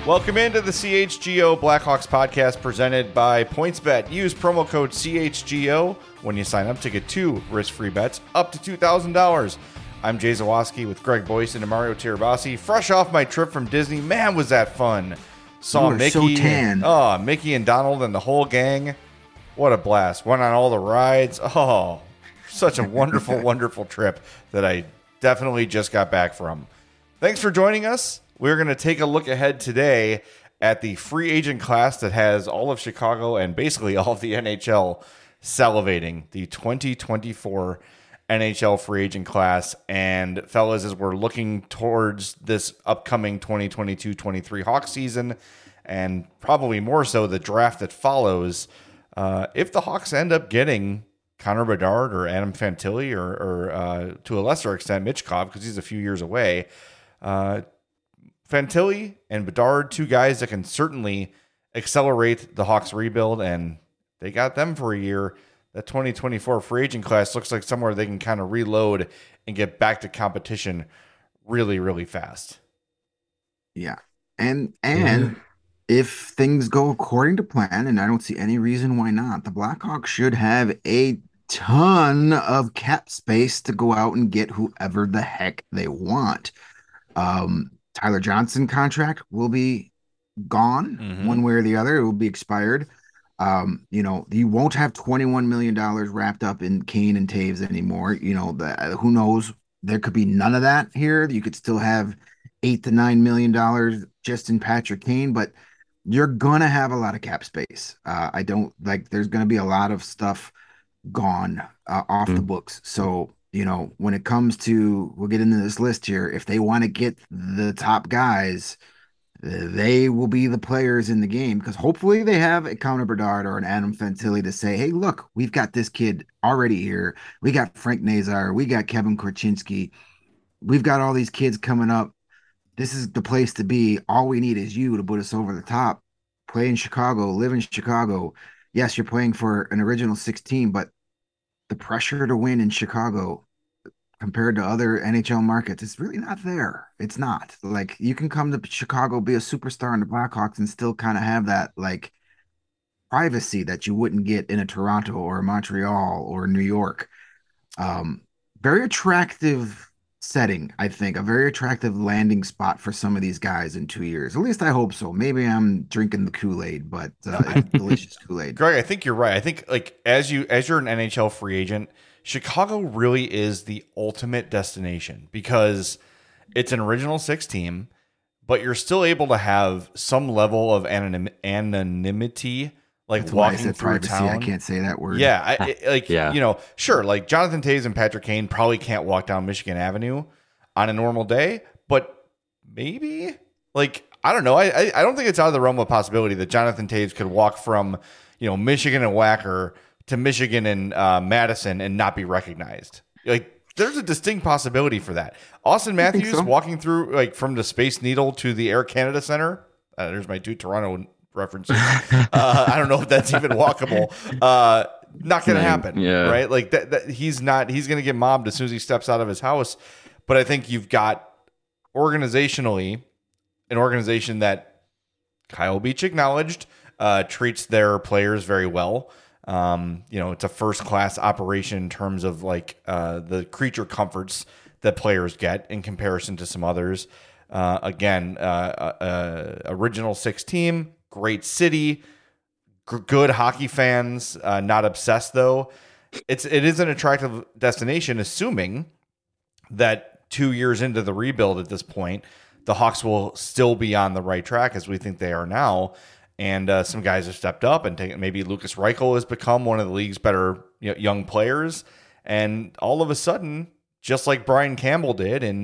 Welcome into the CHGO Blackhawks podcast presented by PointsBet. Use promo code CHGO when you sign up to get 2 risk-free bets up to $2,000. I'm Jay Zawoski with Greg Boyson and Mario Tirabassi. Fresh off my trip from Disney. Man, was that fun. Saw Mickey. So tan. Mickey and Donald and the whole gang. What a blast. Went on all the rides. Oh, such a wonderful, wonderful trip that I definitely just got back from. Thanks for joining us. We're going to take a look ahead today at the free agent class that has all of Chicago and basically all of the NHL salivating, the 2024 NHL free agent class. And fellas, as we're looking towards this upcoming 2022-23 Hawks season, and probably more so the draft that follows, if the Hawks end up getting Connor Bedard or Adam Fantilli or to a lesser extent Michkov, because he's a few years away, Fantilli and Bedard, two guys that can certainly accelerate the Hawks rebuild, and they got them for a year. That 2024 free agent class looks like somewhere they can kind of reload and get back to competition really, really fast. Yeah. And if things go according to plan, and I don't see any reason why not, the Blackhawks should have a ton of cap space to go out and get whoever the heck they want. Tyler Johnson contract will be gone one way or the other. It will be expired. You won't have $21 million wrapped up in Kane and Taves anymore. Who knows? There could be none of that here. You could still have $8 to $9 million just in Patrick Kane, but you're gonna have a lot of cap space. There's gonna be a lot of stuff gone off the books. So when it comes to, we'll get into this list here, if they want to get the top guys, they will be the players in the game, because hopefully they have a Connor Bedard or an Adam Fantilli to say, hey, look, we've got this kid already here. We got Frank Nazar. We got Kevin Korchinski. We've got all these kids coming up. This is the place to be. All we need is you to put us over the top. Play in Chicago, live in Chicago. Yes, you're playing for an original 16, but the pressure to win in Chicago compared to other NHL markets, it's really not there. It's not. Like, you can come to Chicago, be a superstar in the Blackhawks, and still kind of have that like privacy that you wouldn't get in a Toronto or a Montreal or New York. Very attractive setting, I think. A very attractive landing spot for some of these guys in 2 years. At least I hope so. Maybe I'm drinking the Kool-Aid, but it's delicious Kool-Aid. Greg, I think you're right. I think as you're an NHL free agent, Chicago really is the ultimate destination, because it's an original 6 team, but you're still able to have some level of anonymity, like That's why I walking said through privacy. town. I can't say that word. Yeah, sure. Like Jonathan Toews and Patrick Kane probably can't walk down Michigan Avenue on a normal day, but maybe, I don't know. I don't think it's out of the realm of possibility that Jonathan Toews could walk from, Michigan and Wacker to Michigan and Madison and not be recognized. There's a distinct possibility for that. Austin Matthews walking through from the Space Needle to the Air Canada Center. There's my 2 Toronto references. I don't know if that's even walkable. Not going to happen, right? He's going to get mobbed as soon as he steps out of his house. But I think you've got organizationally an organization that Kyle Beach acknowledged treats their players very well. It's a first-class operation in terms of the creature comforts that players get in comparison to some others. Original 6 team, great city, good hockey fans, not obsessed though. It is an attractive destination, assuming that 2 years into the rebuild at this point, the Hawks will still be on the right track as we think they are now. And some guys have stepped up and taken. Maybe Lucas Reichel has become one of the league's better young players. And all of a sudden, just like Brian Campbell did in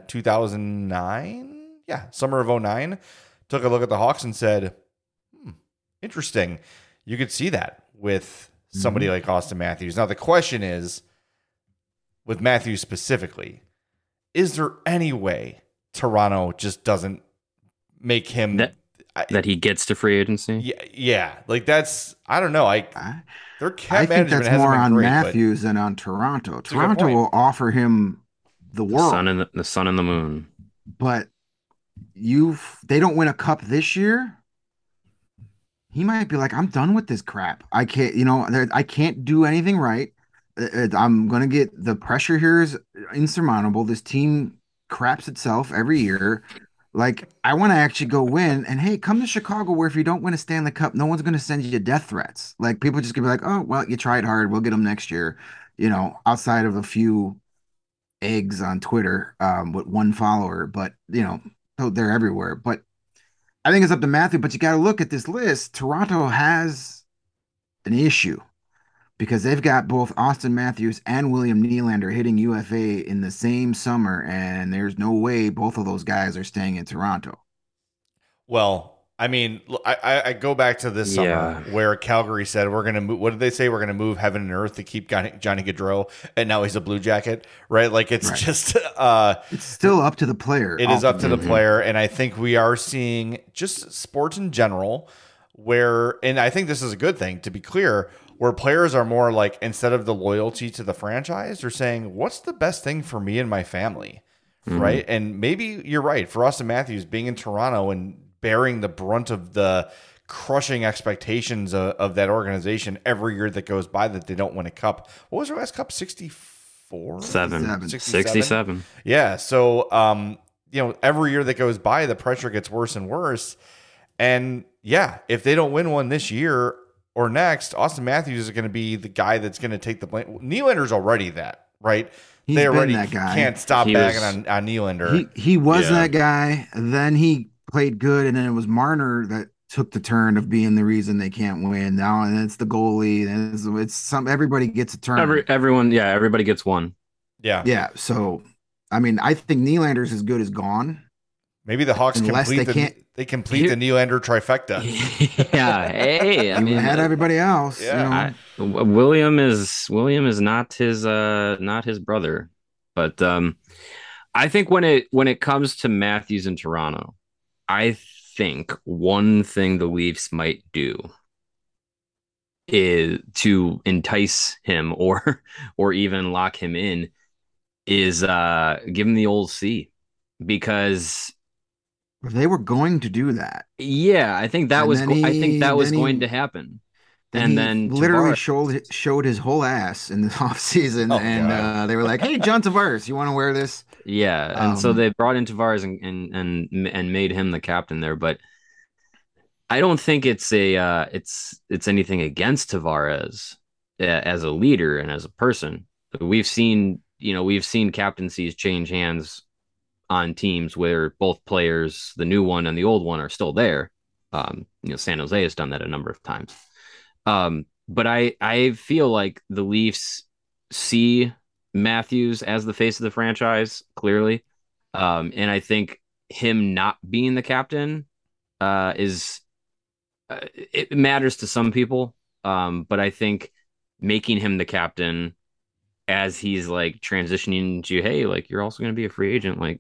2009, summer of 2009, took a look at the Hawks and said, interesting. You could see that with somebody like Austin Matthews. Now, the question is, with Matthews specifically, is there any way Toronto just doesn't make him... that he gets to free agency? Yeah. That's, I don't know. Their cap I think management that's hasn't more been on great, Matthews than on Toronto. a good Toronto point. will offer him the world. The sun and the moon. But they don't win a cup this year, he might be like, I'm done with this crap. I can't, I can't do anything right. I'm gonna get the pressure here is insurmountable. This team craps itself every year. Like, I want to actually go win. And hey, come to Chicago where if you don't win a Stanley Cup, no one's gonna send you death threats. Like, people just gonna be like, oh, well, you tried hard. We'll get them next year. Outside of a few eggs on Twitter, with one follower, but so they're everywhere. But I think it's up to Matthew. But you got to look at this list. Toronto has an issue because they've got both Austin Matthews and William Nylander hitting UFA in the same summer, and there's no way both of those guys are staying in Toronto. Well, I mean, I go back to this summer where Calgary said we're going to move. What did they say? We're going to move heaven and earth to keep Johnny Gaudreau, and now he's a Blue Jacket, right? Like it's just it's still up to the player. It is up to the player, and I think we are seeing just sports in general where, and I think this is a good thing to be clear, where players are more like, instead of the loyalty to the franchise, they're saying, what's the best thing for me and my family, right? And maybe you're right. For Austin Matthews being in Toronto and bearing the brunt of the crushing expectations of that organization every year that goes by that they don't win a cup. What was their last cup? 64? 67. Yeah. So, every year that goes by, the pressure gets worse and worse. And yeah, if they don't win one this year or next, Austin Matthews is going to be the guy that's going to take the blame. Nylander's already that, right? They already that guy. Can't stop bagging on Nylander. He was that guy. Then he played good, and then it was Marner that took the turn of being the reason they can't win. Now, and it's the goalie. And it's everybody gets a turn. Everybody gets one. Yeah. So, I mean, I think Nylander's as good as gone. Maybe the Hawks complete the Nylander trifecta. Yeah. Hey, I mean, had everybody else. Yeah. William is not his brother, but I think when it comes to Matthews in Toronto, I think one thing the Leafs might do is to entice him or even lock him in is give him the old C, because they were going to do that. Yeah, I think that was going to happen. And then literally showed his whole ass in the offseason, and they were like, "Hey, John Tavares, you want to wear this?" Yeah, and so they brought in Tavares and made him the captain there. But I don't think it's anything against Tavares as a leader and as a person. We've seen captaincies change hands on teams where both players, the new one and the old one, are still there. San Jose has done that a number of times. But I feel like the Leafs see Matthews as the face of the franchise, clearly. And I think him not being the captain it matters to some people. But I think making him the captain as he's like transitioning to, hey, like, you're also going to be a free agent. Like,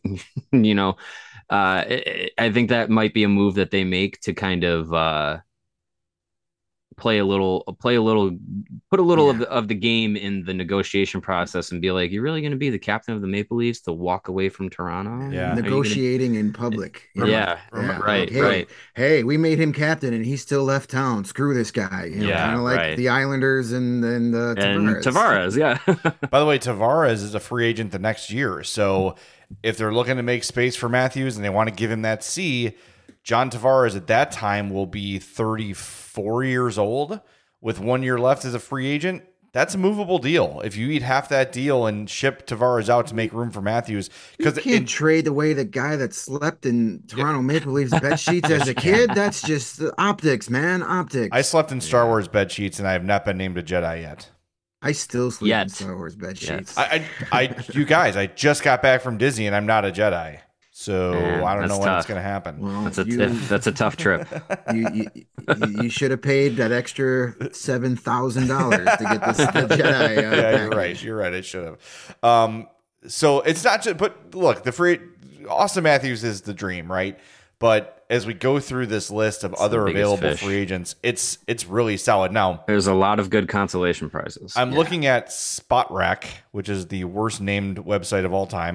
I think that might be a move that they make to kind of, put a little of the game in the negotiation process and be like, you're really going to be the captain of the Maple Leafs to walk away from Toronto? Yeah. Negotiating in public. Right. Hey, we made him captain and he still left town. Screw this guy. Kind of like the Islanders and Tavares. Yeah. By the way, Tavares is a free agent the next year. So if they're looking to make space for Matthews and they want to give him that C, John Tavares at that time will be 34 years old with 1 year left as a free agent. That's a movable deal. If you eat half that deal and ship Tavares out to make room for Matthews, because you can't trade away the guy that slept in Toronto Maple Leafs bed sheets as a kid. That's just optics, man. Optics. I slept in Star Wars bed sheets and I have not been named a Jedi yet. I still sleep in Star Wars bed sheets. You guys, I just got back from Disney and I'm not a Jedi. So I don't know when it's going to happen. Well, that's a tough trip. You should have paid that extra $7,000 to get this Jedi. Yeah, you're right. I should have. So it's not just. But look, Austin Matthews is the dream, right? But as we go through this list of other available free agents, it's really solid. Now, there's a lot of good consolation prizes. I'm looking at Spotrac, which is the worst named website of all time.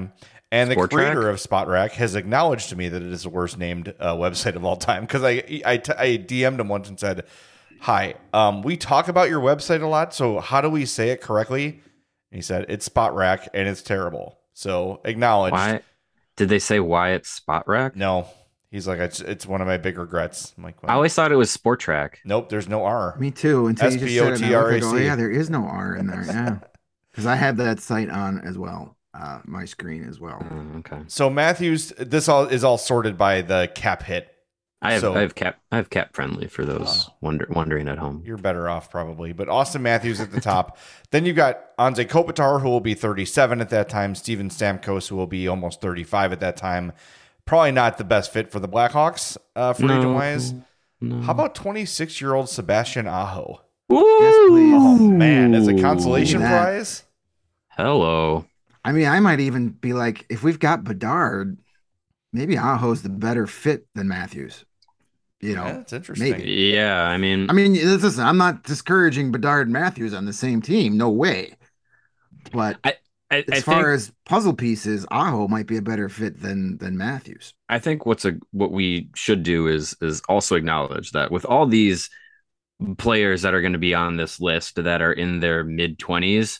And the Sport creator Track? of Spot Rack has acknowledged to me that it is the worst named website of all time. Because I DM'd him once and said, "Hi, we talk about your website a lot. So how do we say it correctly?" And he said, "It's Spot Rack and it's terrible." So acknowledged. Why did they say why it's Spot Rack? No, he's like, it's one of my big regrets. I'm like, I well, always thought it was Sport Track. nope, there's no R. Me too. Until you just said it, and I looked, SPOTRAC. oh yeah, there is no R in there. Yeah, because I have that site on as well, my screen as well. Okay. So Matthews, this all is all sorted by the cap hit. I So- have cap friendly for those wondering at home. You're better off probably. But Austin Matthews at the top. Then you've got Anze Kopitar, who will be 37 at that time. Steven Stamkos, who will be almost 35 at that time. Probably not the best fit for the Blackhawks free agent wise. No. How about 26-year-old Sebastian Aho? Yes, please. Oh man, as a consolation Look at that. prize. Hello. I mean, I might even be like, if we've got Bedard, maybe Aho's the better fit than Matthews. You know, Yeah, that's interesting. maybe. Yeah, I mean, Listen, I'm not discouraging Bedard and Matthews on the same team. No way. But as far as puzzle pieces, Aho might be a better fit than Matthews. I think what we should do is also acknowledge that with all these players that are going to be on this list that are in their mid-20s,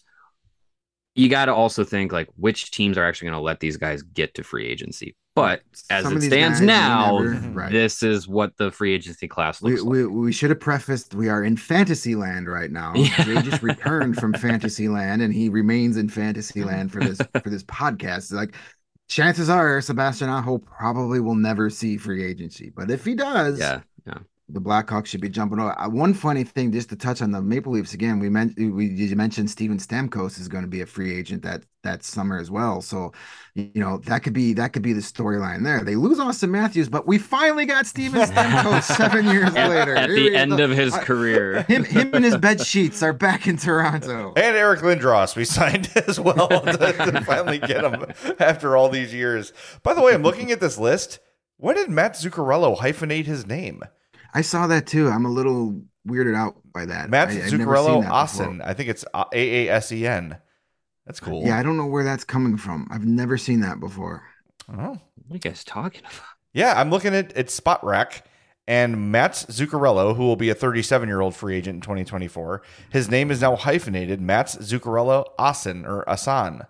you got to also think like which teams are actually going to let these guys get to free agency. But as Some it of these stands guys, now, right. this is what the free agency class looks like. We should have prefaced we are in fantasy land right now. Yeah. Jay just returned from fantasy land and he remains in fantasy land for this podcast. Like chances are Sebastian Aho probably will never see free agency. But if he does, Yeah. the Blackhawks should be jumping over. One funny thing, just to touch on the Maple Leafs again, you mentioned Steven Stamkos is going to be a free agent that summer as well. So, that could be the storyline there. They lose Austin Matthews, but we finally got Steven Stamkos 7 years later. At the end of his career. Him and his bed sheets are back in Toronto. And Eric Lindros we signed as well to finally get him after all these years. By the way, I'm looking at this list. When did Matt Zuccarello hyphenate his name? I saw that too. I'm a little weirded out by that. Matt I've never seen Zuccarello that Asen. before. I think it's AASEN. That's cool. Yeah, I don't know where that's coming from. I've never seen that before. Oh. What are you guys talking about? Yeah, I'm looking at Spot Rack, and Matt Zuccarello, who will be a 37-year-old free agent in 2024, his name is now hyphenated Matt Zuccarello Asen or Asan.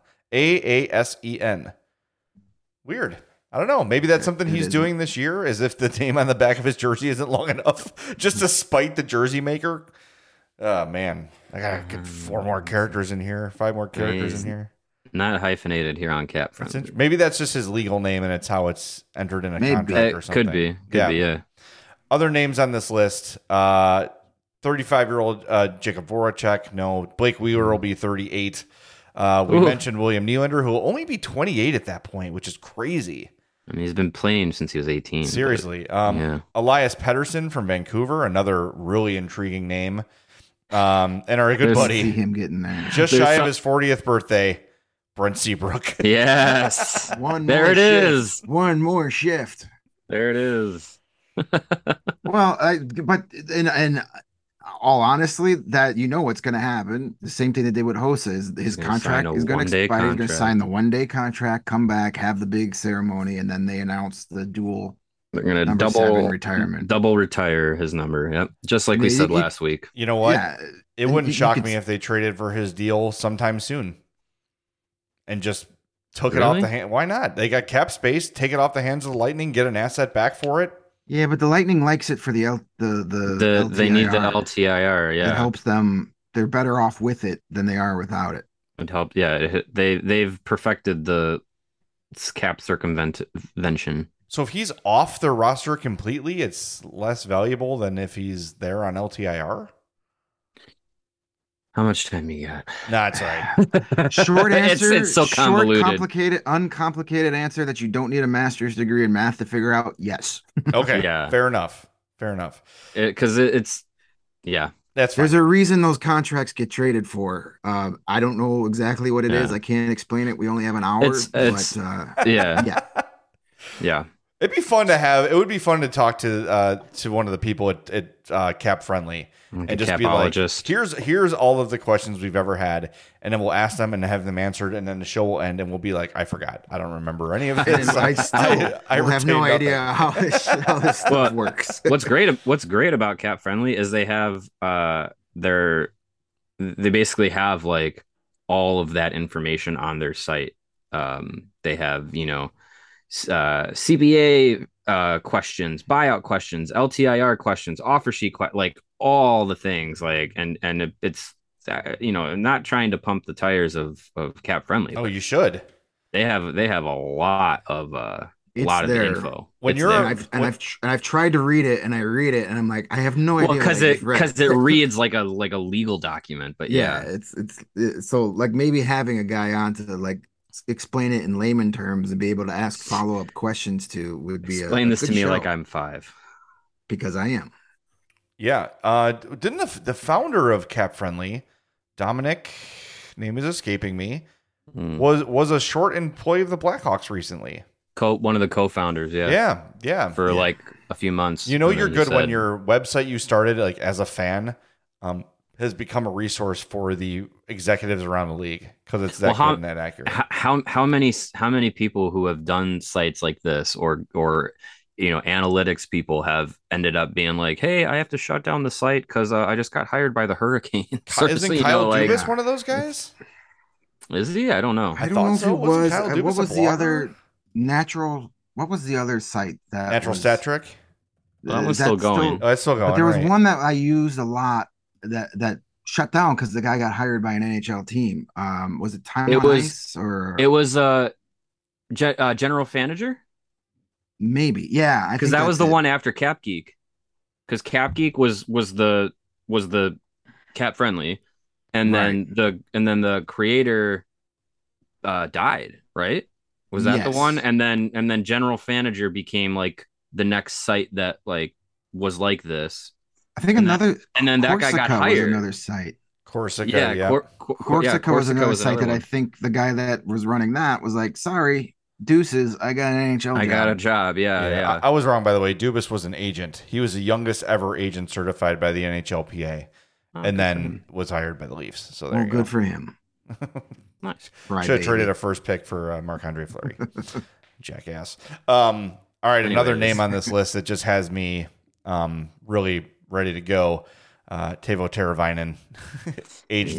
AASEN. Weird. I don't know. Maybe that's something he's doing this year, as if the name on the back of his jersey isn't long enough just to spite the jersey maker. Oh, man. I got to get 4 more characters in here, 5 more characters in here. Not hyphenated here on Cap Friendly. Maybe that's just his legal name and it's how it's entered in a contract or something. Could be, yeah. Other names on this list, 35-year-old Jacob Voracek. No. Blake Wheeler will be 38. We mentioned William Nylander, who will only be 28 at that point, which is crazy. I mean, he's been playing since he was 18. Seriously. yeah. Elias Pettersson from Vancouver, another really intriguing name. And our good See buddy, him getting there. just shy of his 40th birthday, Brent Seabrook. Yes. One There more it shift. is. One more shift. There it is. Well, but in all honestly, that what's going to happen. The same thing they did with Hossa is his gonna contract sign a is going to one-day expire. He's going to contract. sign the 1-day contract, come back, have the big ceremony, and then they announce the dual They're gonna number 7 retirement. double retire his number. Yep, just like we You- said you- last week. You know what? Yeah, It and wouldn't you shock could- me if they traded for his deal sometime soon and just took it off Really? the hand. Why not? They got cap space. Take it off the hands of the Lightning. Get an asset back for it. Yeah, but the Lightning likes it for the They need the LTIR. LTIR. It Yeah, helps them. They're better off with it than they are without it. it helped. Yeah, they've perfected the cap circumvention. So if he's off their roster completely, it's less valuable than if he's there on LTIR. How much time you got? Nah, it's all right. Short answer. It's so short, convoluted. complicated, uncomplicated answer that you don't need a master's degree in math to figure out. Yes. Okay. Yeah. Fair enough. Fair enough. Because it's yeah. That's fine. There's a reason those contracts get traded for. I don't know exactly what it is. Yeah. I can't explain it. We only have an hour. It's- but Yeah. yeah. Yeah. It'd be fun to have. It would be fun to talk to one of the people at Cap Friendly and just be like, here's all of the questions we've ever had, and then we'll ask them and have them answered, and then the show will end, and we'll be like, I forgot, I don't remember any of this. I have no idea how this stuff works. What's great about Cap Friendly is they have they basically have like all of that information on their site. They have CBA questions, buyout questions, LTIR questions, offer sheet like all the things, like and it's not trying to pump the tires of Cap Friendly. Oh, you should. They have a lot of the info. I've tried to read it, and I read it, and I'm like, I have no idea. Because it reads like a legal document, but yeah, it's so like maybe having a guy on to like explain it in layman terms and be able to ask follow-up questions to would be explain this to me like I'm 5, because I am. Yeah. Didn't the founder of Cap Friendly, Dominic, name is escaping me, was a short employee of the Blackhawks recently. One of the co-founders, yeah, for like a few months. You're good when your website you started like as a fan has become a resource for the executives around the league because it's that good and that accurate. How many people who have done sites like this or analytics people have ended up being like, hey, I have to shut down the site because I just got hired by the Hurricane. Isn't Kyle Dubas one of those guys? Is he? I don't know. I don't know if he was. What was the other natural? What was the other site that Natural Stat Trick? That one's still going. It's still going. But there was one that I used a lot that shut down because the guy got hired by an NHL team. Was it Time on Ice or it was General Fanager? Maybe, yeah. Because that was the one after Cap Geek. Because Cap Geek was the Cap Friendly, and then the creator died, right? Was that the one? And then General Fanager became like the next site that like was like this. I think that guy got hired. Another site. Corsica, yeah. Corsica was another site that I think the guy that was running that was like, sorry, deuces, I got an NHL job. I got a job, yeah. I was wrong, by the way. Dubas was an agent. He was the youngest ever agent certified by the NHLPA, and then was hired by the Leafs. So there you go. Good for him. Nice. Should have traded a first pick for Marc-Andre Fleury. Jackass. All right, another name on this list that just has me really ready to go. Teuvo Teravainen, age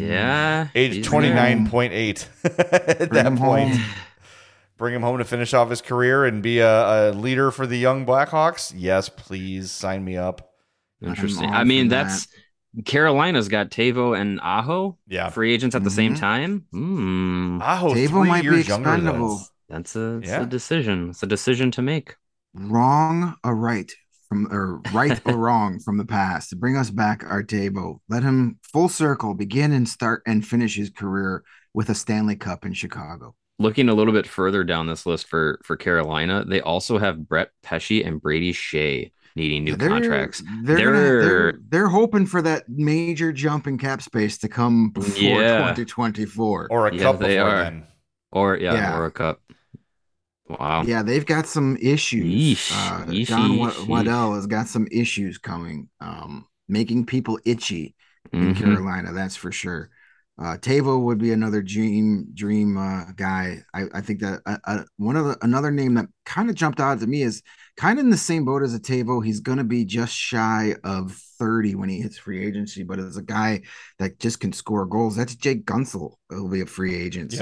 29.8 at that point. Bring him home to finish off his career and be a leader for the young Blackhawks. Yes, please sign me up. Interesting. I mean, Carolina's got Teuvo and Aho, free agents at the same time. Aho, Teuvo might be expendable. That's a decision. It's a decision to make. Wrong or right or wrong from the past to bring us back our Teuvo. Let him full circle begin and start and finish his career with a Stanley Cup in Chicago. Looking a little bit further down this list for Carolina, they also have Brett Pesce and Brady Shea needing new contracts. They're hoping for that major jump in cap space to come before 2024 or a cup before then, or a cup. Wow. Yeah, they've got some issues. John Waddell has got some issues coming, making people itchy in Carolina. That's for sure. Teuvo would be another dream guy. I think that another name that kind of jumped out to me is kind of in the same boat as a Teuvo. He's going to be just shy of 30 when he hits free agency, but as a guy that just can score goals, that's Jake Gunsel. He'll be a free agent.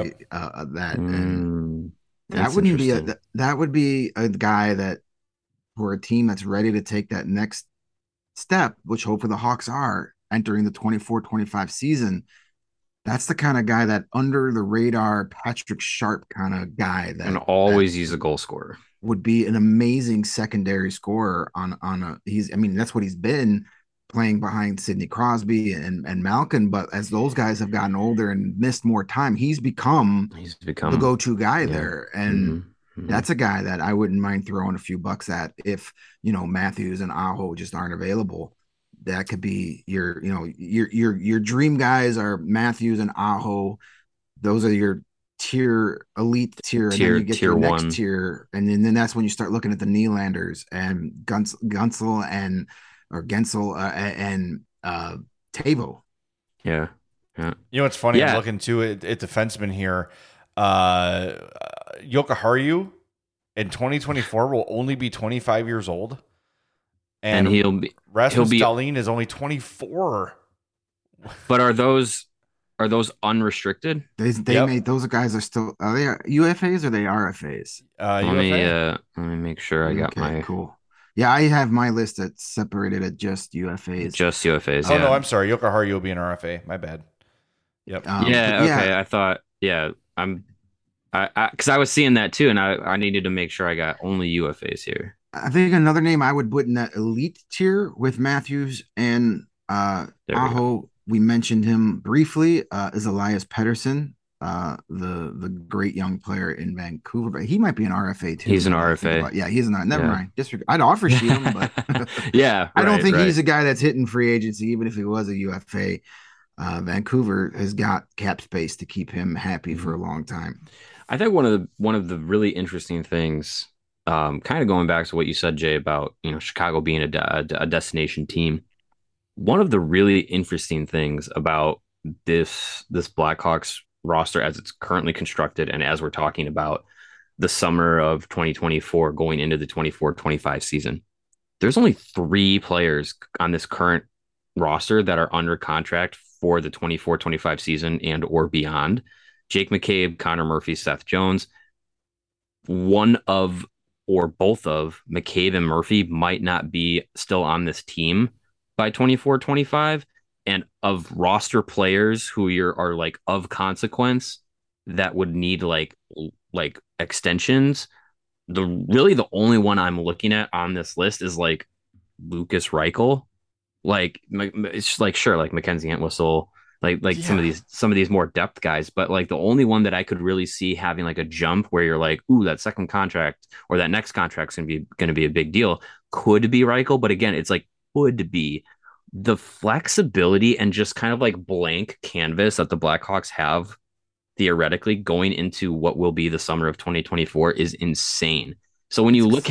That would be a guy that for a team that's ready to take that next step, which hopefully the Hawks are entering the 24-25 season. That's the kind of guy that under the radar Patrick Sharp kind of guy that and always use a goal scorer would be an amazing secondary scorer that's what he's been playing behind Sidney Crosby and Malkin. But as those guys have gotten older and missed more time, he's become the go-to guy there. And that's a guy that I wouldn't mind throwing a few bucks at if, Matthews and Aho just aren't available. That could be your dream guys are Matthews and Aho. Those are your elite tier, and then you get tier your next one. tier, and then that's when you start looking at the Nylanders and Gunsel and Tavo. Yeah. You know what's funny? I'm looking to it at defenseman here. Jokiharju in 2024 will only be 25 years old, and Rasmus Dahlin is only 24. But are those unrestricted? Those guys are still, are they UFAs or are they RFAs? Let me make sure I got my cool. Yeah, I have my list that's separated at just UFAs. Just UFAs. Oh no, I'm sorry. Jokiharju will be an RFA. My bad. Yep. Okay. I thought. Yeah. Because I was seeing that too, and I needed to make sure I got only UFAs here. I think another name I would put in that elite tier with Matthews and Aho. We mentioned him briefly. Is Elias Pettersson, the great young player in Vancouver, but he might be an RFA too. He's an RFA. Yeah, he's not. Never mind. I'd offer sheet him, but I don't think he's a guy that's hitting free agency. Even if he was a UFA, Vancouver has got cap space to keep him happy for a long time. I think one of the really interesting things, kind of going back to what you said, Jay, about Chicago being a destination team. One of the really interesting things about this Blackhawks roster as it's currently constructed, and as we're talking about the summer of 2024 going into the 24-25 season, there's only 3 players on this current roster that are under contract for the 24-25 season and or beyond. Jake McCabe, Connor Murphy, Seth Jones. One of or both of McCabe and Murphy might not be still on this team by 24-25, and of roster players who are like of consequence that would need like extensions, the only one I'm looking at on this list is like Lukas Reichel. Like it's just like, sure, like Mackenzie Entwistle, some of these more depth guys, but like the only one that I could really see having like a jump where you're like, ooh, that second contract or that next contract's gonna be a big deal could be Reichel. But again, it's like would be the flexibility and just kind of like blank canvas that the Blackhawks have theoretically going into what will be the summer of 2024 is insane. So when you look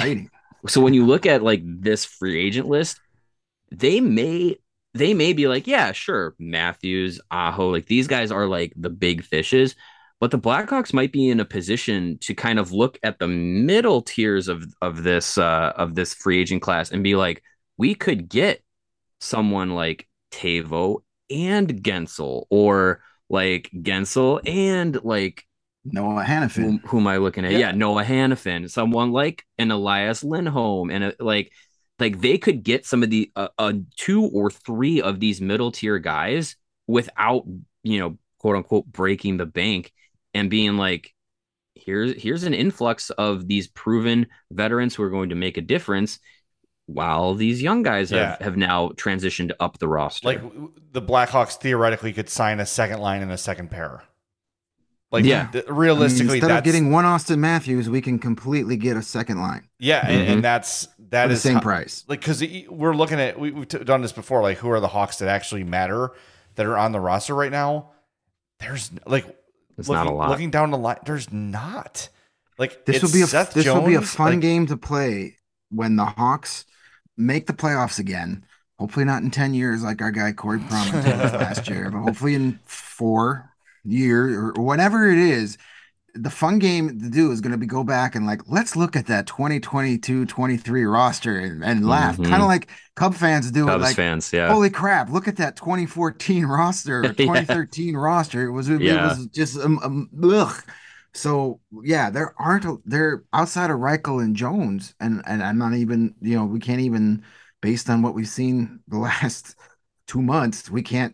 at like this free agent list, they may be like, yeah, sure, Matthews, Aho, like these guys are like the big fishes, but the Blackhawks might be in a position to kind of look at the middle tiers of this free agent class and be like, we could get someone like Tavo and Guentzel, or like Guentzel and like Noah Hannafin. Who am I looking at? Yeah, Noah Hannafin. Someone like an Elias Lindholm, and like they could get some of the 2 or 3 of these middle tier guys without quote unquote breaking the bank, and being like, here's an influx of these proven veterans who are going to make a difference, while these young guys have now transitioned up the roster. Like the Blackhawks theoretically could sign a second line and a second pair. Like realistically, instead of getting one Austin Matthews, we can completely get a second line. Yeah, and that is the same price. Like because we're looking at we've done this before. Like who are the Hawks that actually matter that are on the roster right now? There's not a lot. Looking down the line, there's not. Like this will be a fun game to play when the Hawks make the playoffs again. Hopefully not in 10 years like our guy Corey Promen told us last year, but hopefully in 4 years or whatever it is. The fun game to do is going to be go back and like, let's look at that 2022-23 roster and laugh. Kind of like Cub fans do. Cubs like, fans, yeah. Holy crap, look at that 2014 roster, or 2013 roster. It was just ugh. So yeah, they're outside of Reichel and Jones, and I'm not even, we can't even, based on what we've seen the last 2 months, we can't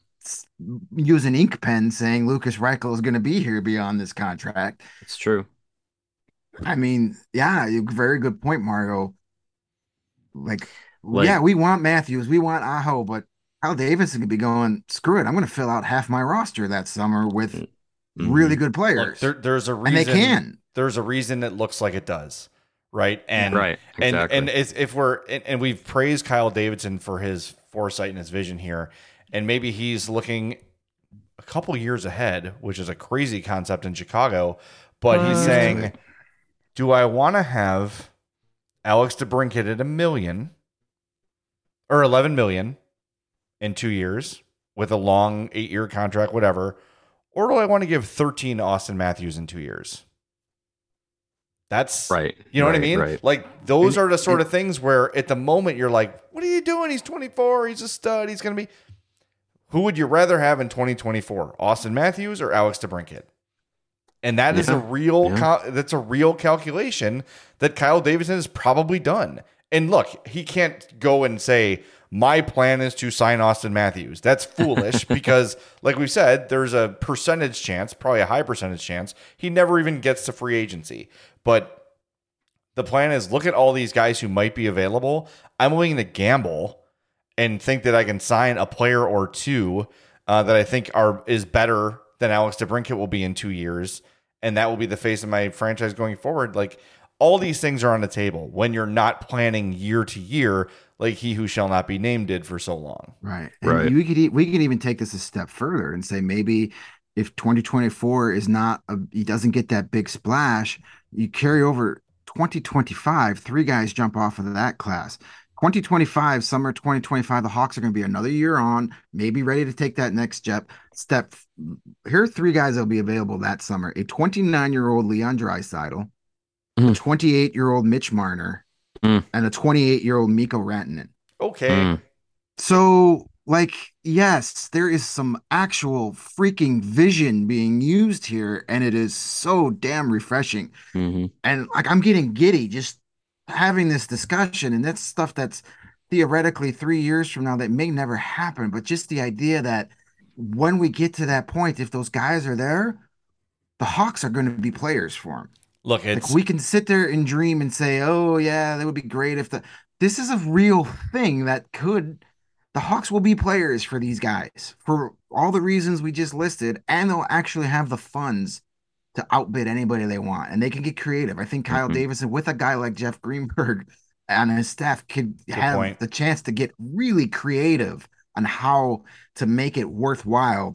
use an ink pen saying Lukas Reichel is going to be here beyond this contract. It's true. I mean, yeah, very good point, Margo. Like yeah, we want Matthews, we want Aho, but Kyle Davidson could be going, screw it, I'm going to fill out half my roster that summer with really good players. Look, there's a reason, and they can. There's a reason it looks like it does, right? And exactly. and if we're and we've praised Kyle Davidson for his foresight and his vision here, and maybe he's looking a couple years ahead, which is a crazy concept in Chicago. But he's Used to saying, it. do I want to have Alex DeBrincat at $1 million or 11 million in 2 years with a long 8-year contract, whatever, or do I want to give 13 to Austin Matthews in 2 years? That's right. You know what I Right, mean? right. Like those are the sort of things where at the moment you're like, what are you doing? He's 24. He's a stud. He's going to be. Who would you rather have in 2024, Austin Matthews or Alex DeBrincat? And that is a real that's a real calculation that Kyle Davidson has probably done. And look, he can't go and say, my plan is to sign Austin Matthews. That's foolish because, like we said, there's a percentage chance, probably a high percentage chance, he never even gets to free agency. But the plan is look at all these guys who might be available. I'm willing to gamble and think that I can sign a player or two that I think is better than Alex DeBrincat will be in 2 years. And that will be the face of my franchise going forward. Like all these things are on the table when you're not planning year to year, like he who shall not be named did for so long. Right. Right. And we could even take this a step further and say maybe if 2024 is not he doesn't get that big splash, you carry over 2025, three guys jump off of that class. 2025, summer 2025, the Hawks are going to be another year on, maybe ready to take that next step. Here are three guys that will be available that summer: a 29-year-old Leon Draisaitl, a 28-year-old Mitch Marner, and a 28-year-old Mikko Rantanen. Okay. So, like, yes, there is some actual freaking vision being used here, and it is so damn refreshing. And like, I'm getting giddy just having this discussion, and that's stuff that's theoretically 3 years from now that may never happen. But just the idea that when we get to that point, if those guys are there, the Hawks are going to be players for them. Look, Like we can sit there and dream and say, "Oh yeah, that would be great if this is a real thing that could the Hawks will be players for these guys for all the reasons we just listed, and they'll actually have the funds to outbid anybody they want, and they can get creative. I think Kyle Davidson with a guy like Jeff Greenberg on his staff could have the chance to get really creative on how to make it worthwhile.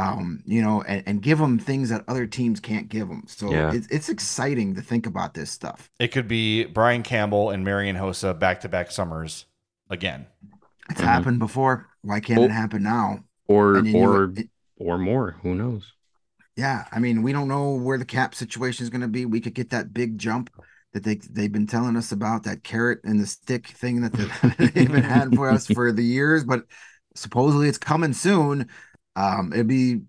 And give them things that other teams can't give them. So it's exciting to think about this stuff. It could be Brian Campbell and Marian Hossa back-to-back summers again. It's happened before. Why can't it happen now? Or more? Who knows? Yeah, I mean, we don't know where the cap situation is going to be. We could get that big jump that they've been telling us about, that carrot and the stick thing that they've been had for us for the years, but supposedly it's coming soon. It'd be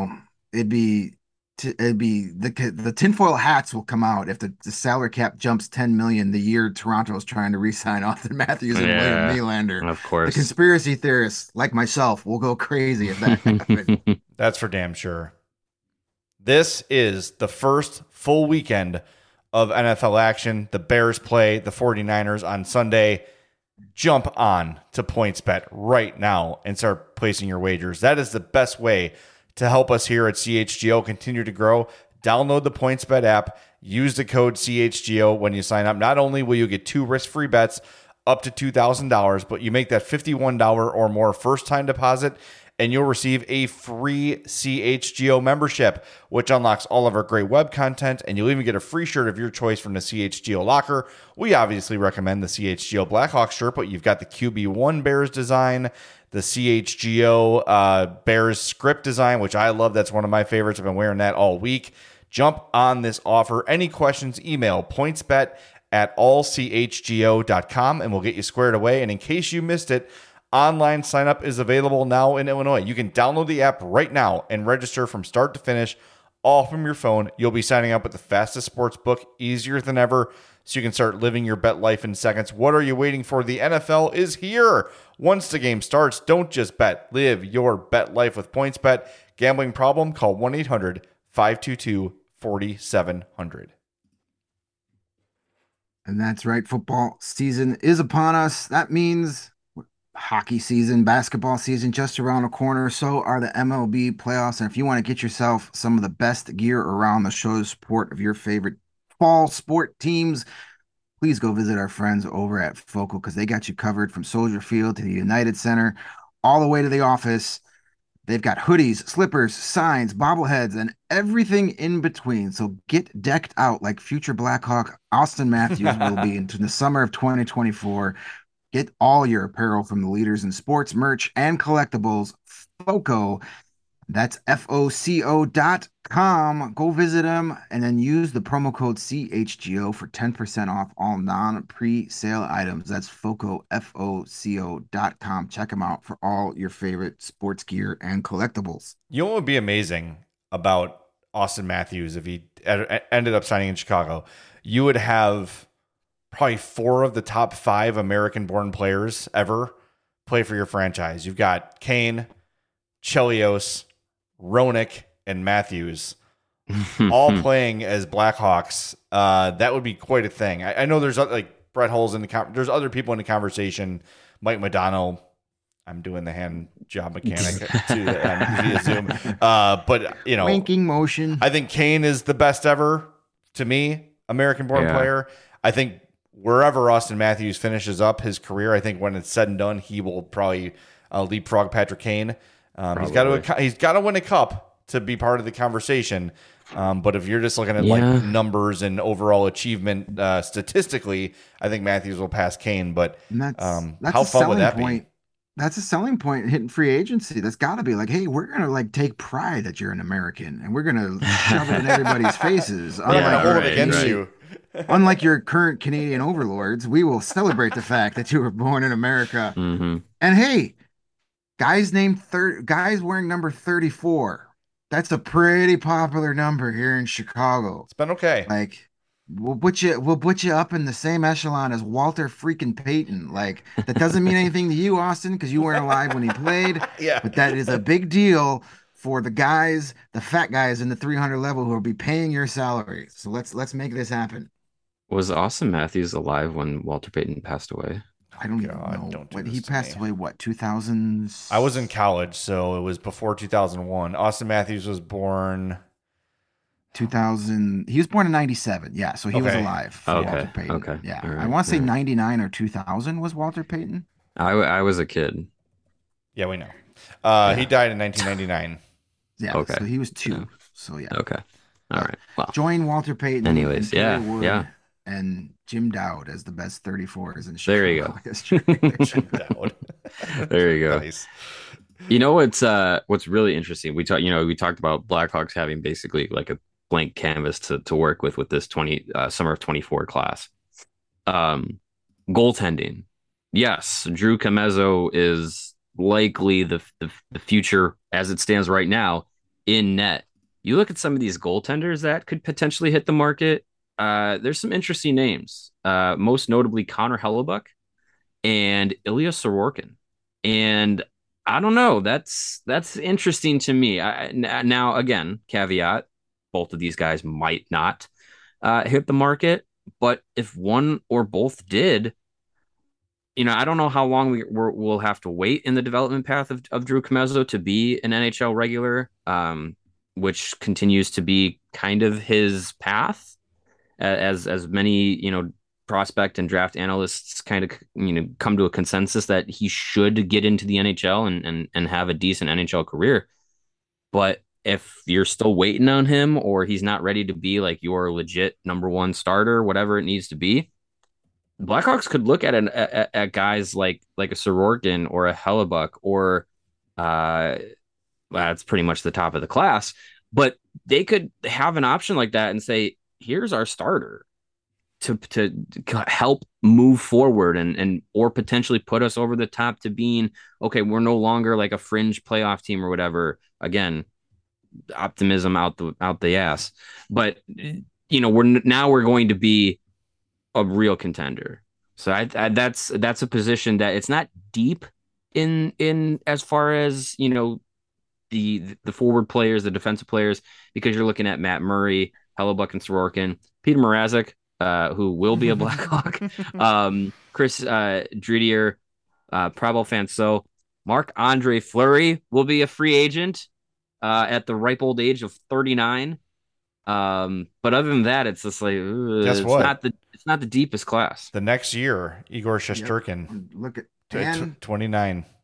the tinfoil hats will come out if the salary cap jumps 10 million the year Toronto is trying to re-sign Austin Matthews and William Nylander. Of course, the conspiracy theorists like myself will go crazy if that happens. That's for damn sure. This is the first full weekend of NFL action. The Bears play the 49ers on Sunday. Jump on to PointsBet right now and start placing your wagers. That is the best way to help us here at CHGO continue to grow. Download the PointsBet app. Use the code CHGO when you sign up. Not only will you get 2 risk-free bets up to $2,000, but you make that $51 or more first-time deposit, and you'll receive a free CHGO membership, which unlocks all of our great web content, and you'll even get a free shirt of your choice from the CHGO locker. We obviously recommend the CHGO Blackhawks shirt, but you've got the QB1 Bears design, the CHGO Bears script design, which I love. That's one of my favorites. I've been wearing that all week. Jump on this offer. Any questions, email pointsbet@allchgo.com, and we'll get you squared away. And in case you missed it, online sign up is available now in Illinois. You can download the app right now and register from start to finish, all from your phone. You'll be signing up with the fastest sports book, easier than ever, so you can start living your bet life in seconds. What are you waiting for? The NFL is here. Once the game starts, don't just bet. Live your bet life with PointsBet. Gambling problem? Call 1-800-522-4700. And that's right. Football season is upon us. That means hockey season, basketball season just around the corner. So are the MLB playoffs. And if you want to get yourself some of the best gear around the show support of your favorite fall sport teams, please go visit our friends over at Focal because they got you covered from Soldier Field to the United Center, all the way to the office. They've got hoodies, slippers, signs, bobbleheads, and everything in between. So get decked out like future Blackhawk Austin Matthews will be into the summer of 2024. Get all your apparel from the leaders in sports, merch, and collectibles. FOCO. That's FOCO.com. Go visit them and then use the promo code CHGO for 10% off all non-pre-sale items. That's FOCO, FOCO.com. Check them out for all your favorite sports gear and collectibles. You know what would be amazing about Austin Matthews if he ended up signing in Chicago? You would have probably 4 of the top 5 American-born players ever play for your franchise. You've got Kane, Chelios, Roenick, and Matthews all playing as Blackhawks. That would be quite a thing. I know there's like Brett Hull's in the there's other people in the conversation. Mike Modano. I'm doing the hand job mechanic via Zoom. But you know, winking motion. I think Kane is the best ever to me, American-born player. I think wherever Austin Matthews finishes up his career, I think when it's said and done, he will probably leapfrog Patrick Kane. He's got to win a cup to be part of the conversation. But if you're just looking at like numbers and overall achievement statistically, I think Matthews will pass Kane. But that's how fun would that be? That's a selling point hitting free agency. That's got to be like, hey, we're gonna like take pride that you're an American, and we're gonna shove it in everybody's faces. Unlike your current Canadian overlords, we will celebrate the fact that you were born in America. Mm-hmm. And hey, guys wearing number 34. That's a pretty popular number here in Chicago. It's been okay. Like we'll put you up in the same echelon as Walter freaking Payton. Like that doesn't mean anything to you, Austin, because you weren't alive when he played. Yeah. But that is a big deal for the guys, the fat guys in the 300 level who will be paying your salary. So let's make this happen. Was Austin Matthews alive when Walter Payton passed away? I don't even know. He passed away, 2000? I was in college, so it was before 2001. Austin Matthews was born 2000. He was born in 97. Yeah, so he was alive for Walter Payton. Okay. Yeah. Right. I want to say 99 or 2000 was Walter Payton. I was a kid. Yeah, we know. He died in 1999. Yeah, okay. So he was 2. Yeah. So yeah. Okay. All right. Well, join Walter Payton. Anyways, yeah. And Jim Dowd as the best 34s in Chicago. There you go. Jim Dowd. There you go. Nice. You know what's really interesting? We talked about Blackhawks having basically like a blank canvas to work with this summer of 24 class. Goaltending. Yes, Drew Commesso is likely the future as it stands right now in net. You look at some of these goaltenders that could potentially hit the market. There's some interesting names, most notably Connor Hellebuyck and Ilya Sorokin. And I don't know, that's interesting to me. Now, again, caveat, both of these guys might not hit the market, but if one or both did, I don't know how long we'll have to wait in the development path of Drew Commesso to be an NHL regular, which continues to be kind of his path. As many prospect and draft analysts kind of come to a consensus that he should get into the NHL and have a decent NHL career. But if you're still waiting on him, or he's not ready to be like your legit number one starter, whatever it needs to be, Blackhawks could look at guys like a Sorokin or a Hellebuyck, or that's pretty much the top of the class. But they could have an option like that and say, here's our starter to help move forward and or potentially put us over the top to being, okay, we're no longer like a fringe playoff team or whatever. Again, optimism out the ass. But we're going to be a real contender. So I that's a position that it's not deep in as far as the forward players, the defensive players, because you're looking at Matt Murray, Hellebuyck, and Sorokin, Peter Mrazek, who will be a Blackhawk, Chris Driedger, Pavel Fanceau, Marc-Andre Fleury will be a free agent at the ripe old age of 39. But other than that, it's just like it's not the deepest class. The next year, Igor Shesterkin, look at 29.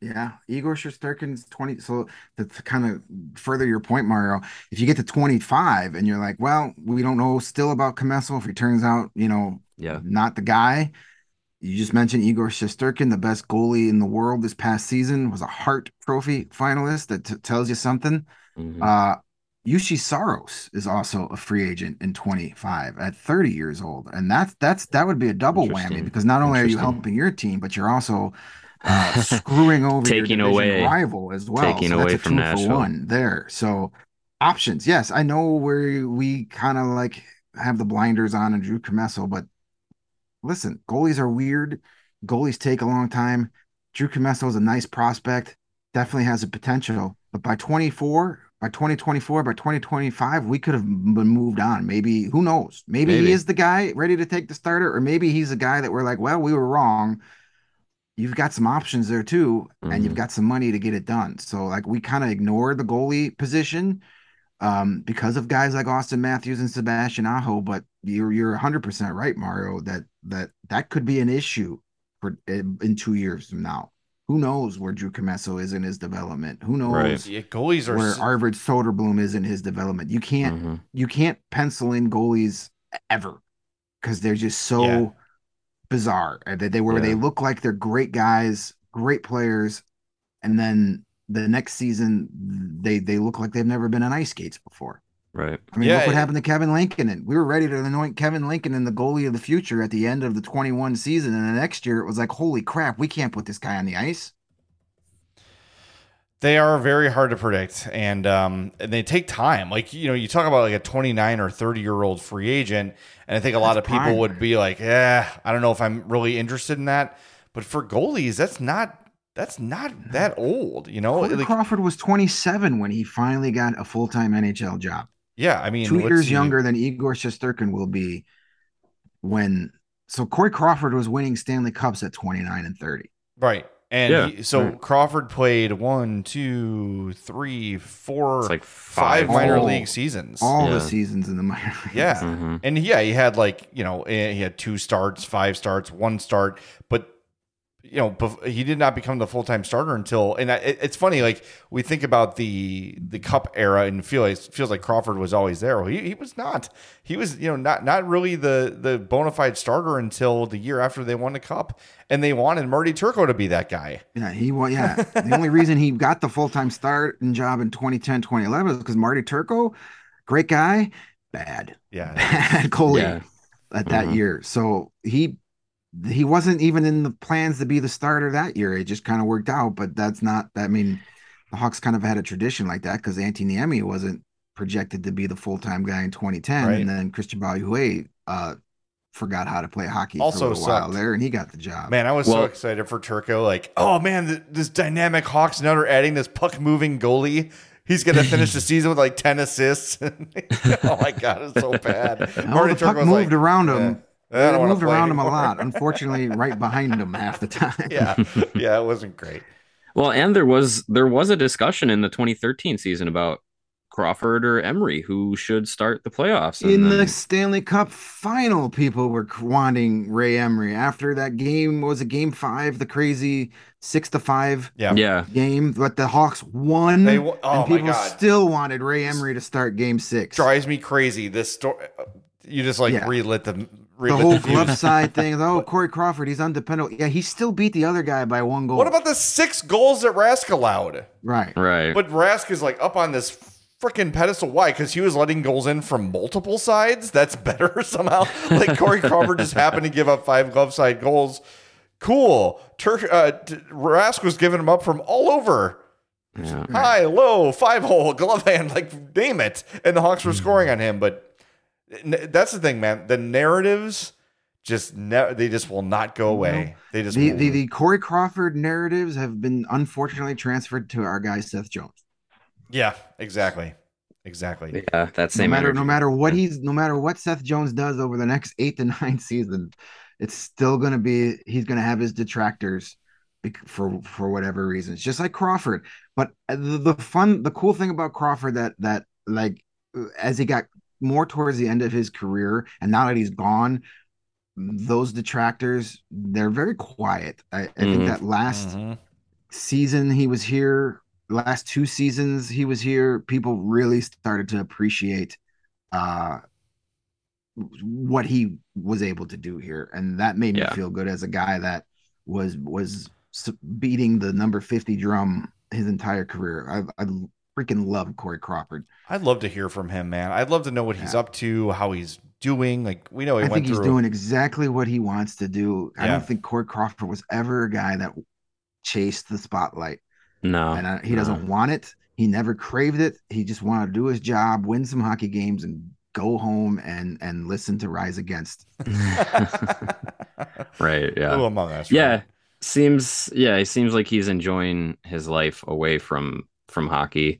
Yeah, Igor Shesterkin's 20. So to kind of further your point, Mario, if you get to 25 and you're like, well, we don't know still about Comesso if he turns out, Yeah. not the guy. You just mentioned Igor Shesterkin, the best goalie in the world this past season, was a Hart Trophy finalist. That tells you something. Hmm. Uh, Yushi Saros is also a free agent in 25 at 30 years old, and that would be a double whammy Interesting. because not only are you Interesting. helping your team, but you're also screwing over your Taking division away, rival as well. taking So that's away a from two for Nashville. one there. So options, yes, I know where we kind of like have the blinders on and Drew Commesso, but listen, goalies are weird. Goalies take a long time. Drew Commesso is a nice prospect, definitely has a potential. But by 24, by 2024, by 2025, we could have been moved on. Maybe, who knows? Maybe he Maybe. is the guy ready to take the starter, or maybe he's a guy that we're like, well, we were wrong. You've got some options there too, and you've Hmm. got some money to get it done. So, like, we kind of ignored the goalie position because of guys like Austin Matthews and Sebastian Aho. But you're 100% right, Mario. That could be an issue for in 2 years from now. Who knows where Drew Commesso is in his development? Who Right. knows Yeah, goalies are. where Arvid Soderblom is in his development? You can't Hmm. you can't pencil in goalies ever because they're just Yeah, so bizarre. They Yeah. look like they're great guys, great players, and then the next season they look like they've never been on ice skates before. Right. I mean, yeah. look what happened to Kevin Lincoln. And we were ready to anoint Kevin Lincoln in the goalie of the future at the end of the 21 season. And the next year it was like, holy crap, we can't put this guy on the ice. They are very hard to predict, and they take time. Like you talk about like a 29 or 30-year-old free agent, and I think a lot That's of people prime. would be like, "Yeah, I don't know if I'm really interested in that." But for goalies, that's not that old. Corey Like, Crawford was 27 when he finally got a full-time NHL job. yeah, I mean, Two let's years see, younger than Igor Shesterkin will be when. So Corey Crawford was winning Stanley Cups at 29 and 30. right? And Yeah. he so Right. Crawford played one, two, three, It's four, like five five. minor All league seasons. all the Yeah. seasons in the minor leagues. Yeah. Hmm. And yeah, he had like, he had 2 starts, 5 starts, 1 start, but he did not become the full-time starter until, and it's funny, like we think about the cup era and feels like Crawford was always there. Well, he was not. He was, not really the bona fide starter until the year after they won the cup, and they wanted Marty Turco to be that guy. Yeah, he was. Yeah, the only reason he got the full-time starting job in 2010, 2011 is because Marty Turco, great guy, bad, Yeah, he bad was. goalie Yeah. at that Hmm. year. So he wasn't even in the plans to be the starter that year. It just kind of worked out, but that's not. I mean, the Hawks kind of had a tradition like that because Antti Niemi wasn't projected to be the full-time guy in 2010, and Right. then Christian Baljuwe forgot how to play hockey for a Also little while sucked. there, and he got the job. Man, I was so Well, excited for Turco. Like, oh man, this dynamic Hawks now are adding this puck moving goalie. He's gonna finish the season with like 10 assists. Oh my god, it's so bad. Oh, the puck Turco's moved like, around eh, him. I It don't want to moved play around him a anymore. lot. Unfortunately, right behind him half the time. Yeah, yeah, it wasn't great. well, and there was a discussion in the 2013 season about Crawford or Emery who should start the playoffs, and In the then Stanley Cup final, people were wanting Ray Emery after that game. Was it game five, the crazy 6-5 Yeah, yeah, game, but the Hawks won, oh and my people god, still wanted Ray this Emery to start game six. drives me crazy. This story, you just like Yeah. relit The whole the glove fuse. side thing. Oh, But Corey Crawford, he's undependable. Yeah, he still beat the other guy by 1 goal. what about the 6 goals that Rask allowed? Right. right. But Rask is like up on this freaking pedestal. Why? Because he was letting goals in from multiple sides. That's better somehow. Like Corey Crawford just happened to give up 5 glove side goals. Cool. Rask was giving them up from all over. Yeah. High, low, 5-hole, glove hand. Like, name it. And the Hawks were scoring on him. But that's the thing, man. The narratives they just will not go away. They just The Corey Crawford narratives have been unfortunately transferred to our guy Seth Jones. Yeah, exactly. Yeah, that same energy. No matter what Seth Jones does over the next 8 to 9 seasons, it's still gonna be he's gonna have his detractors for whatever reasons, just like Crawford. But the cool thing about Crawford that like as he got more towards the end of his career, and now that he's gone, those detractors they're very quiet. I think that last Mhm. season he was here, last 2 seasons he was here, people really started to appreciate uh what he was able to do here, and that made me Yeah. feel good as a guy that was beating the number 50 drum his entire career. I freaking love Corey Crawford. I'd love to hear from him, man. I'd love to know what he's Yeah. up to, how he's doing. Like, we know he I went think he's through. doing exactly what he wants to do. I Yeah. don't think Corey Crawford was ever a guy that chased the spotlight, No, and he doesn't want it. He never craved it. He just wanted to do his job, win some hockey games, and go home and listen to Rise Against. Right. Yeah. Who among us? Yeah. Right? He seems like he's enjoying his life away from hockey.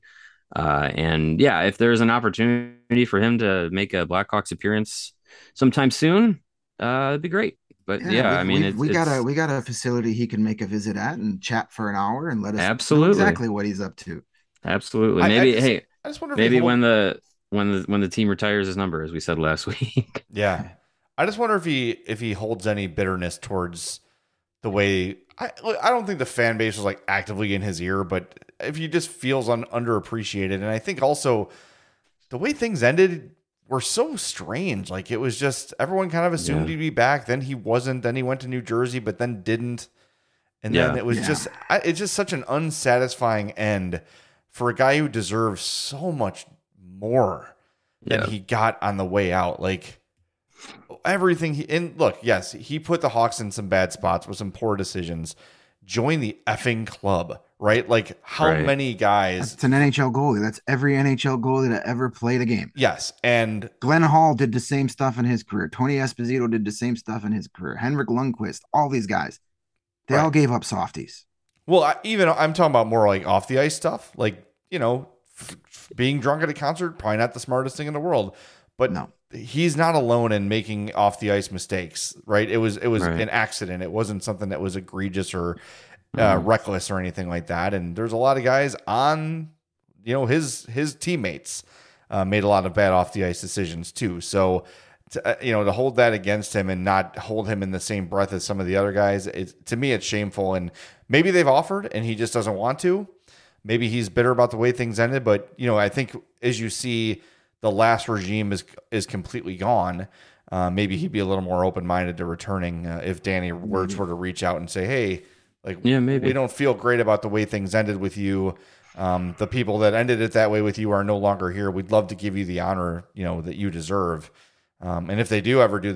And yeah, if there's an opportunity for him to make a Blackhawks appearance sometime soon, it'd be great. But yeah, I mean, we got a facility he can make a visit at and chat for an hour and let us know absolutely exactly what he's up to. absolutely. I Maybe just- hey, I just wonder if maybe he hold- when the team retires his number, as we said last week. Yeah. I just wonder if he holds any bitterness towards the way I don't think the fan base was like actively in his ear, but if he just feels underappreciated. And I think also the way things ended were so strange. Like, it was just everyone kind of assumed he'd be back. Then he wasn't. Then he went to New Jersey, but then didn't. And then it was it's just such an unsatisfying end for a guy who deserves so much more than he got on the way out. Like, everything look, yes, he put the Hawks in some bad spots with some poor decisions. Join the effing club, right? Like, how many guys? It's an NHL goalie. That's every NHL goalie that ever played a game. Yes, and Glenn Hall did the same stuff in his career. Tony Esposito did the same stuff in his career. Henrik Lundqvist, all these guys, they all gave up softies. Well, I'm talking about more like off the ice stuff, like, being drunk at a concert, probably not the smartest thing in the world, but no. He's not alone in making off the ice mistakes, right? It was an accident. It wasn't something that was egregious or reckless or anything like that. And there's a lot of guys on, his teammates made a lot of bad off the ice decisions too. So, to hold that against him and not hold him in the same breath as some of the other guys, to me, it's shameful. And maybe they've offered and he just doesn't want to. Maybe he's bitter about the way things ended. But, I think as you see, the last regime is completely gone. Maybe he'd be a little more open-minded to returning if Danny Wirtz were to reach out and say, hey, maybe we don't feel great about the way things ended with you. The people that ended it that way with you are no longer here. We'd love to give you the honor, that you deserve. And if they do ever do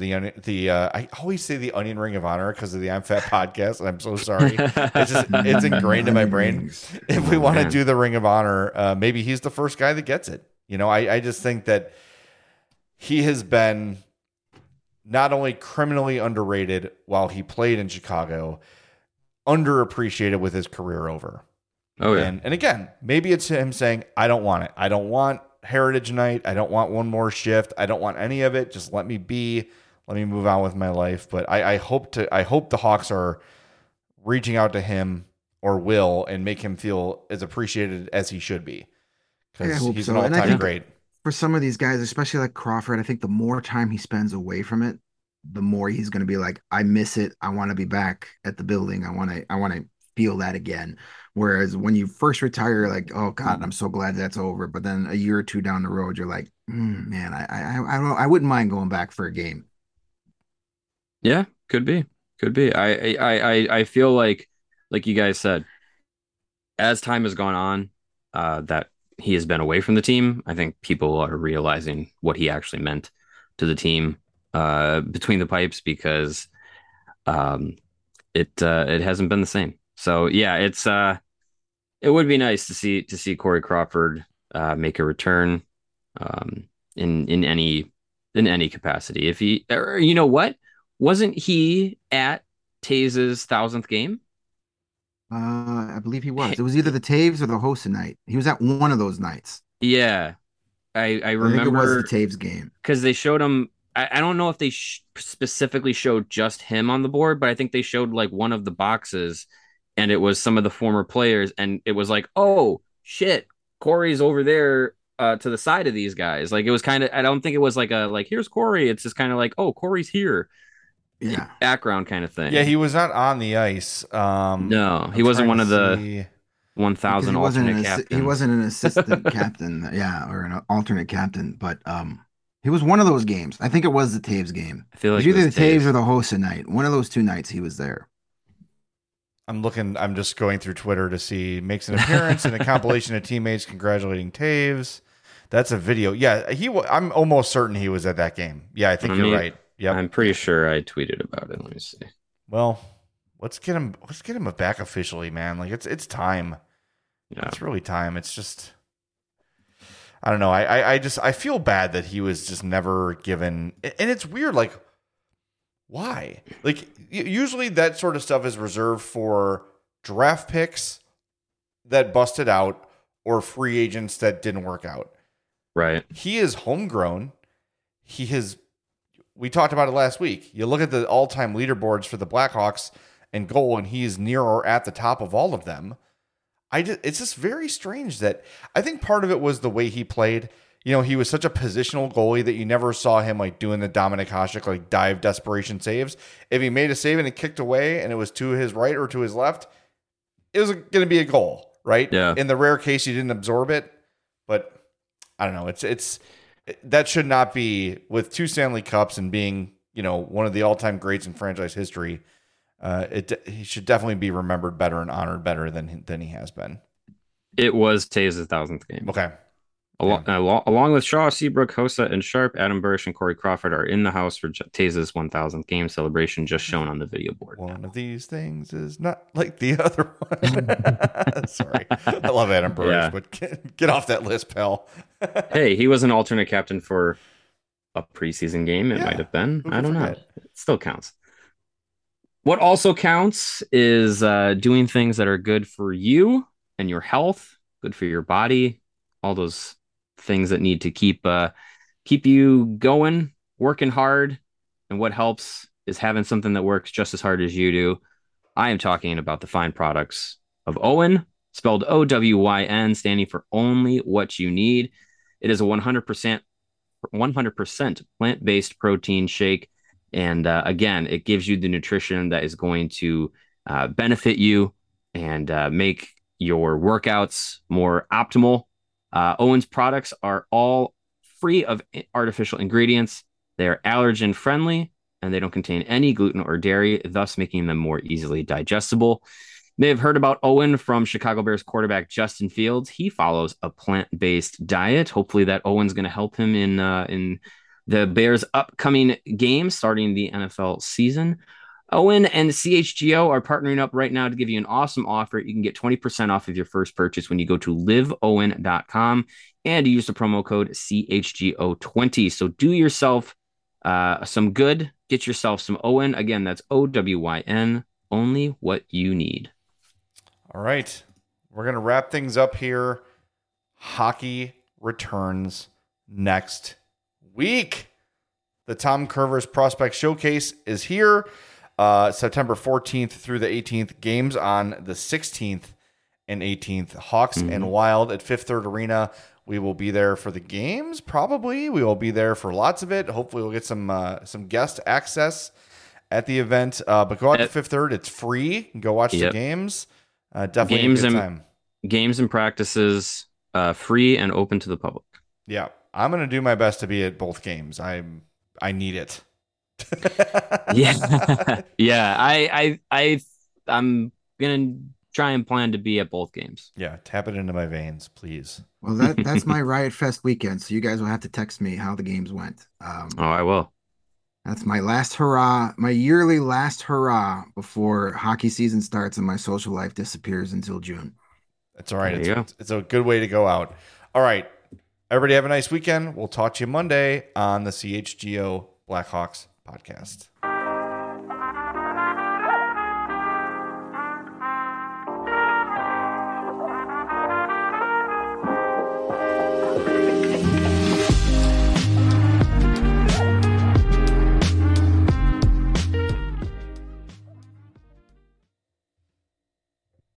I always say the Onion Ring of Honor because of the I'm Fat podcast, and I'm so sorry. It's ingrained in my brain. If we want to do the Ring of Honor, maybe he's the first guy that gets it. I just think that he has been not only criminally underrated while he played in Chicago, underappreciated with his career over. Oh, yeah. And again, maybe it's him saying, I don't want it. I don't want Heritage Night. I don't want one more shift. I don't want any of it. Just let me be. Let me move on with my life. But I hope the Hawks are reaching out to him or will and make him feel as appreciated as he should be. Because he's an all-time great. For some of these guys, especially like Crawford, I think the more time he spends away from it, the more he's going to be like, I miss it. I want to be back at the building. I want to feel that again. Whereas when you first retire, you're like, oh God, I'm so glad that's over. But then a year or two down the road, you're like, man, I wouldn't mind going back for a game. Yeah, could be. I feel like you guys said, as time has gone on, that he has been away from the team. I think people are realizing what he actually meant to the team between the pipes, because it hasn't been the same. So yeah, it would be nice to see Corey Crawford make a return in any capacity. If he, or, you know what, wasn't he at Taves' 1,000th game? I believe he was. It was either the Taves or the Hossa night. He was at one of those nights. Yeah, I remember. I think it was the Taves game because they showed him. I don't know if they specifically showed just him on the board, but I think they showed like one of the boxes, and it was some of the former players, and it was like, oh shit, Corey's over there to the side of these guys. Like, it was kind of. I don't think it was like here's Corey. It's just kind of like, oh, Corey's here. Yeah. background kind of thing. Yeah, he was not on the ice. No, he wasn't one of the 1,000 he alternate captains. He wasn't an assistant captain, yeah, or an alternate captain, but he was one of those games. I think it was the Taves game. I feel like it was either it was the Taves Taves. or the Hossa night. One of those two nights he was there. I'm just going through Twitter to see makes an appearance in a compilation of teammates congratulating Taves. That's a video. Yeah, I'm almost certain he was at that game. Yeah, I think you're right. Yeah, I'm pretty sure I tweeted about it. Let me see. Well, let's get him back officially, man. Like it's time. Yeah, it's really time. It's just I don't know. I feel bad that he was just never given, and it's weird. Like, why? Like, usually that sort of stuff is reserved for draft picks that busted out or free agents that didn't work out. Right. He is homegrown. We talked about it last week. You look at the all-time leaderboards for the Blackhawks and goal, and he is near or at the top of all of them. It's just very strange that I think part of it was the way he played. You know, he was such a positional goalie that you never saw him like doing the Dominik Hasek like dive desperation saves. If he made a save and it kicked away and it was to his right or to his left, it was going to be a goal, right? Yeah. In the rare case you didn't absorb it, but I don't know. It's that should not be with 2 Stanley Cups and being, you know, one of the all-time greats in franchise history. He should definitely be remembered better and honored better than he has been. It was Taves' 1,000th game. Okay. Along with Shaw, Seabrook, Hossa, and Sharp, Adam Burrish and Corey Crawford are in the house for Taves' 1,000th game celebration, just shown on the video board. One of these things is not like the other one. Sorry. I love Adam Burrish, but get off that list, pal. Hey, he was an alternate captain for a preseason game. It might have been. I don't know. It still counts. What also counts is doing things that are good for you and your health, good for your body, all those things that need to keep you going, working hard. And what helps is having something that works just as hard as you do. I am talking about the fine products of OWYN, spelled OWYN, standing for only what you need. It is a 100% plant-based protein shake. And again, it gives you the nutrition that is going to benefit you and make your workouts more optimal. OWYN's products are all free of artificial ingredients. They are allergen friendly and they don't contain any gluten or dairy, thus making them more easily digestible. You may have heard about OWYN from Chicago Bears quarterback Justin Fields. He follows a plant-based diet. Hopefully that OWYN's going to help him in the Bears' upcoming game starting the NFL season. OWYN and CHGO are partnering up right now to give you an awesome offer. You can get 20% off of your first purchase when you go to liveowyn.com and use the promo code CHGO20. So do yourself some good. Get yourself some OWYN. Again, that's OWYN, only what you need. All right. We're going to wrap things up here. Hockey returns next week. The Tom Curvers Prospect Showcase is here. September 14th through the 18th. Games on the 16th and 18th. Hawks and Wild at Fifth Third Arena. We will be there for the games, probably. We will be there for lots of it. Hopefully we'll get some guest access at the event. But go out to Fifth Third. It's free. Go watch the games. Definitely games a good time. Games and practices, free and open to the public. Yeah. I'm going to do my best to be at both games. I need it. Yeah. I'm gonna try and plan to be at both games. Yeah, tap it into my veins, please. Well, that's my Riot Fest weekend, so you guys will have to text me how the games went. I will. That's my last hurrah, my yearly last hurrah before hockey season starts and my social life disappears until June. That's all right. It's a good way to go out. All right, everybody have a nice weekend. We'll talk to you Monday on the CHGO Blackhawks podcast.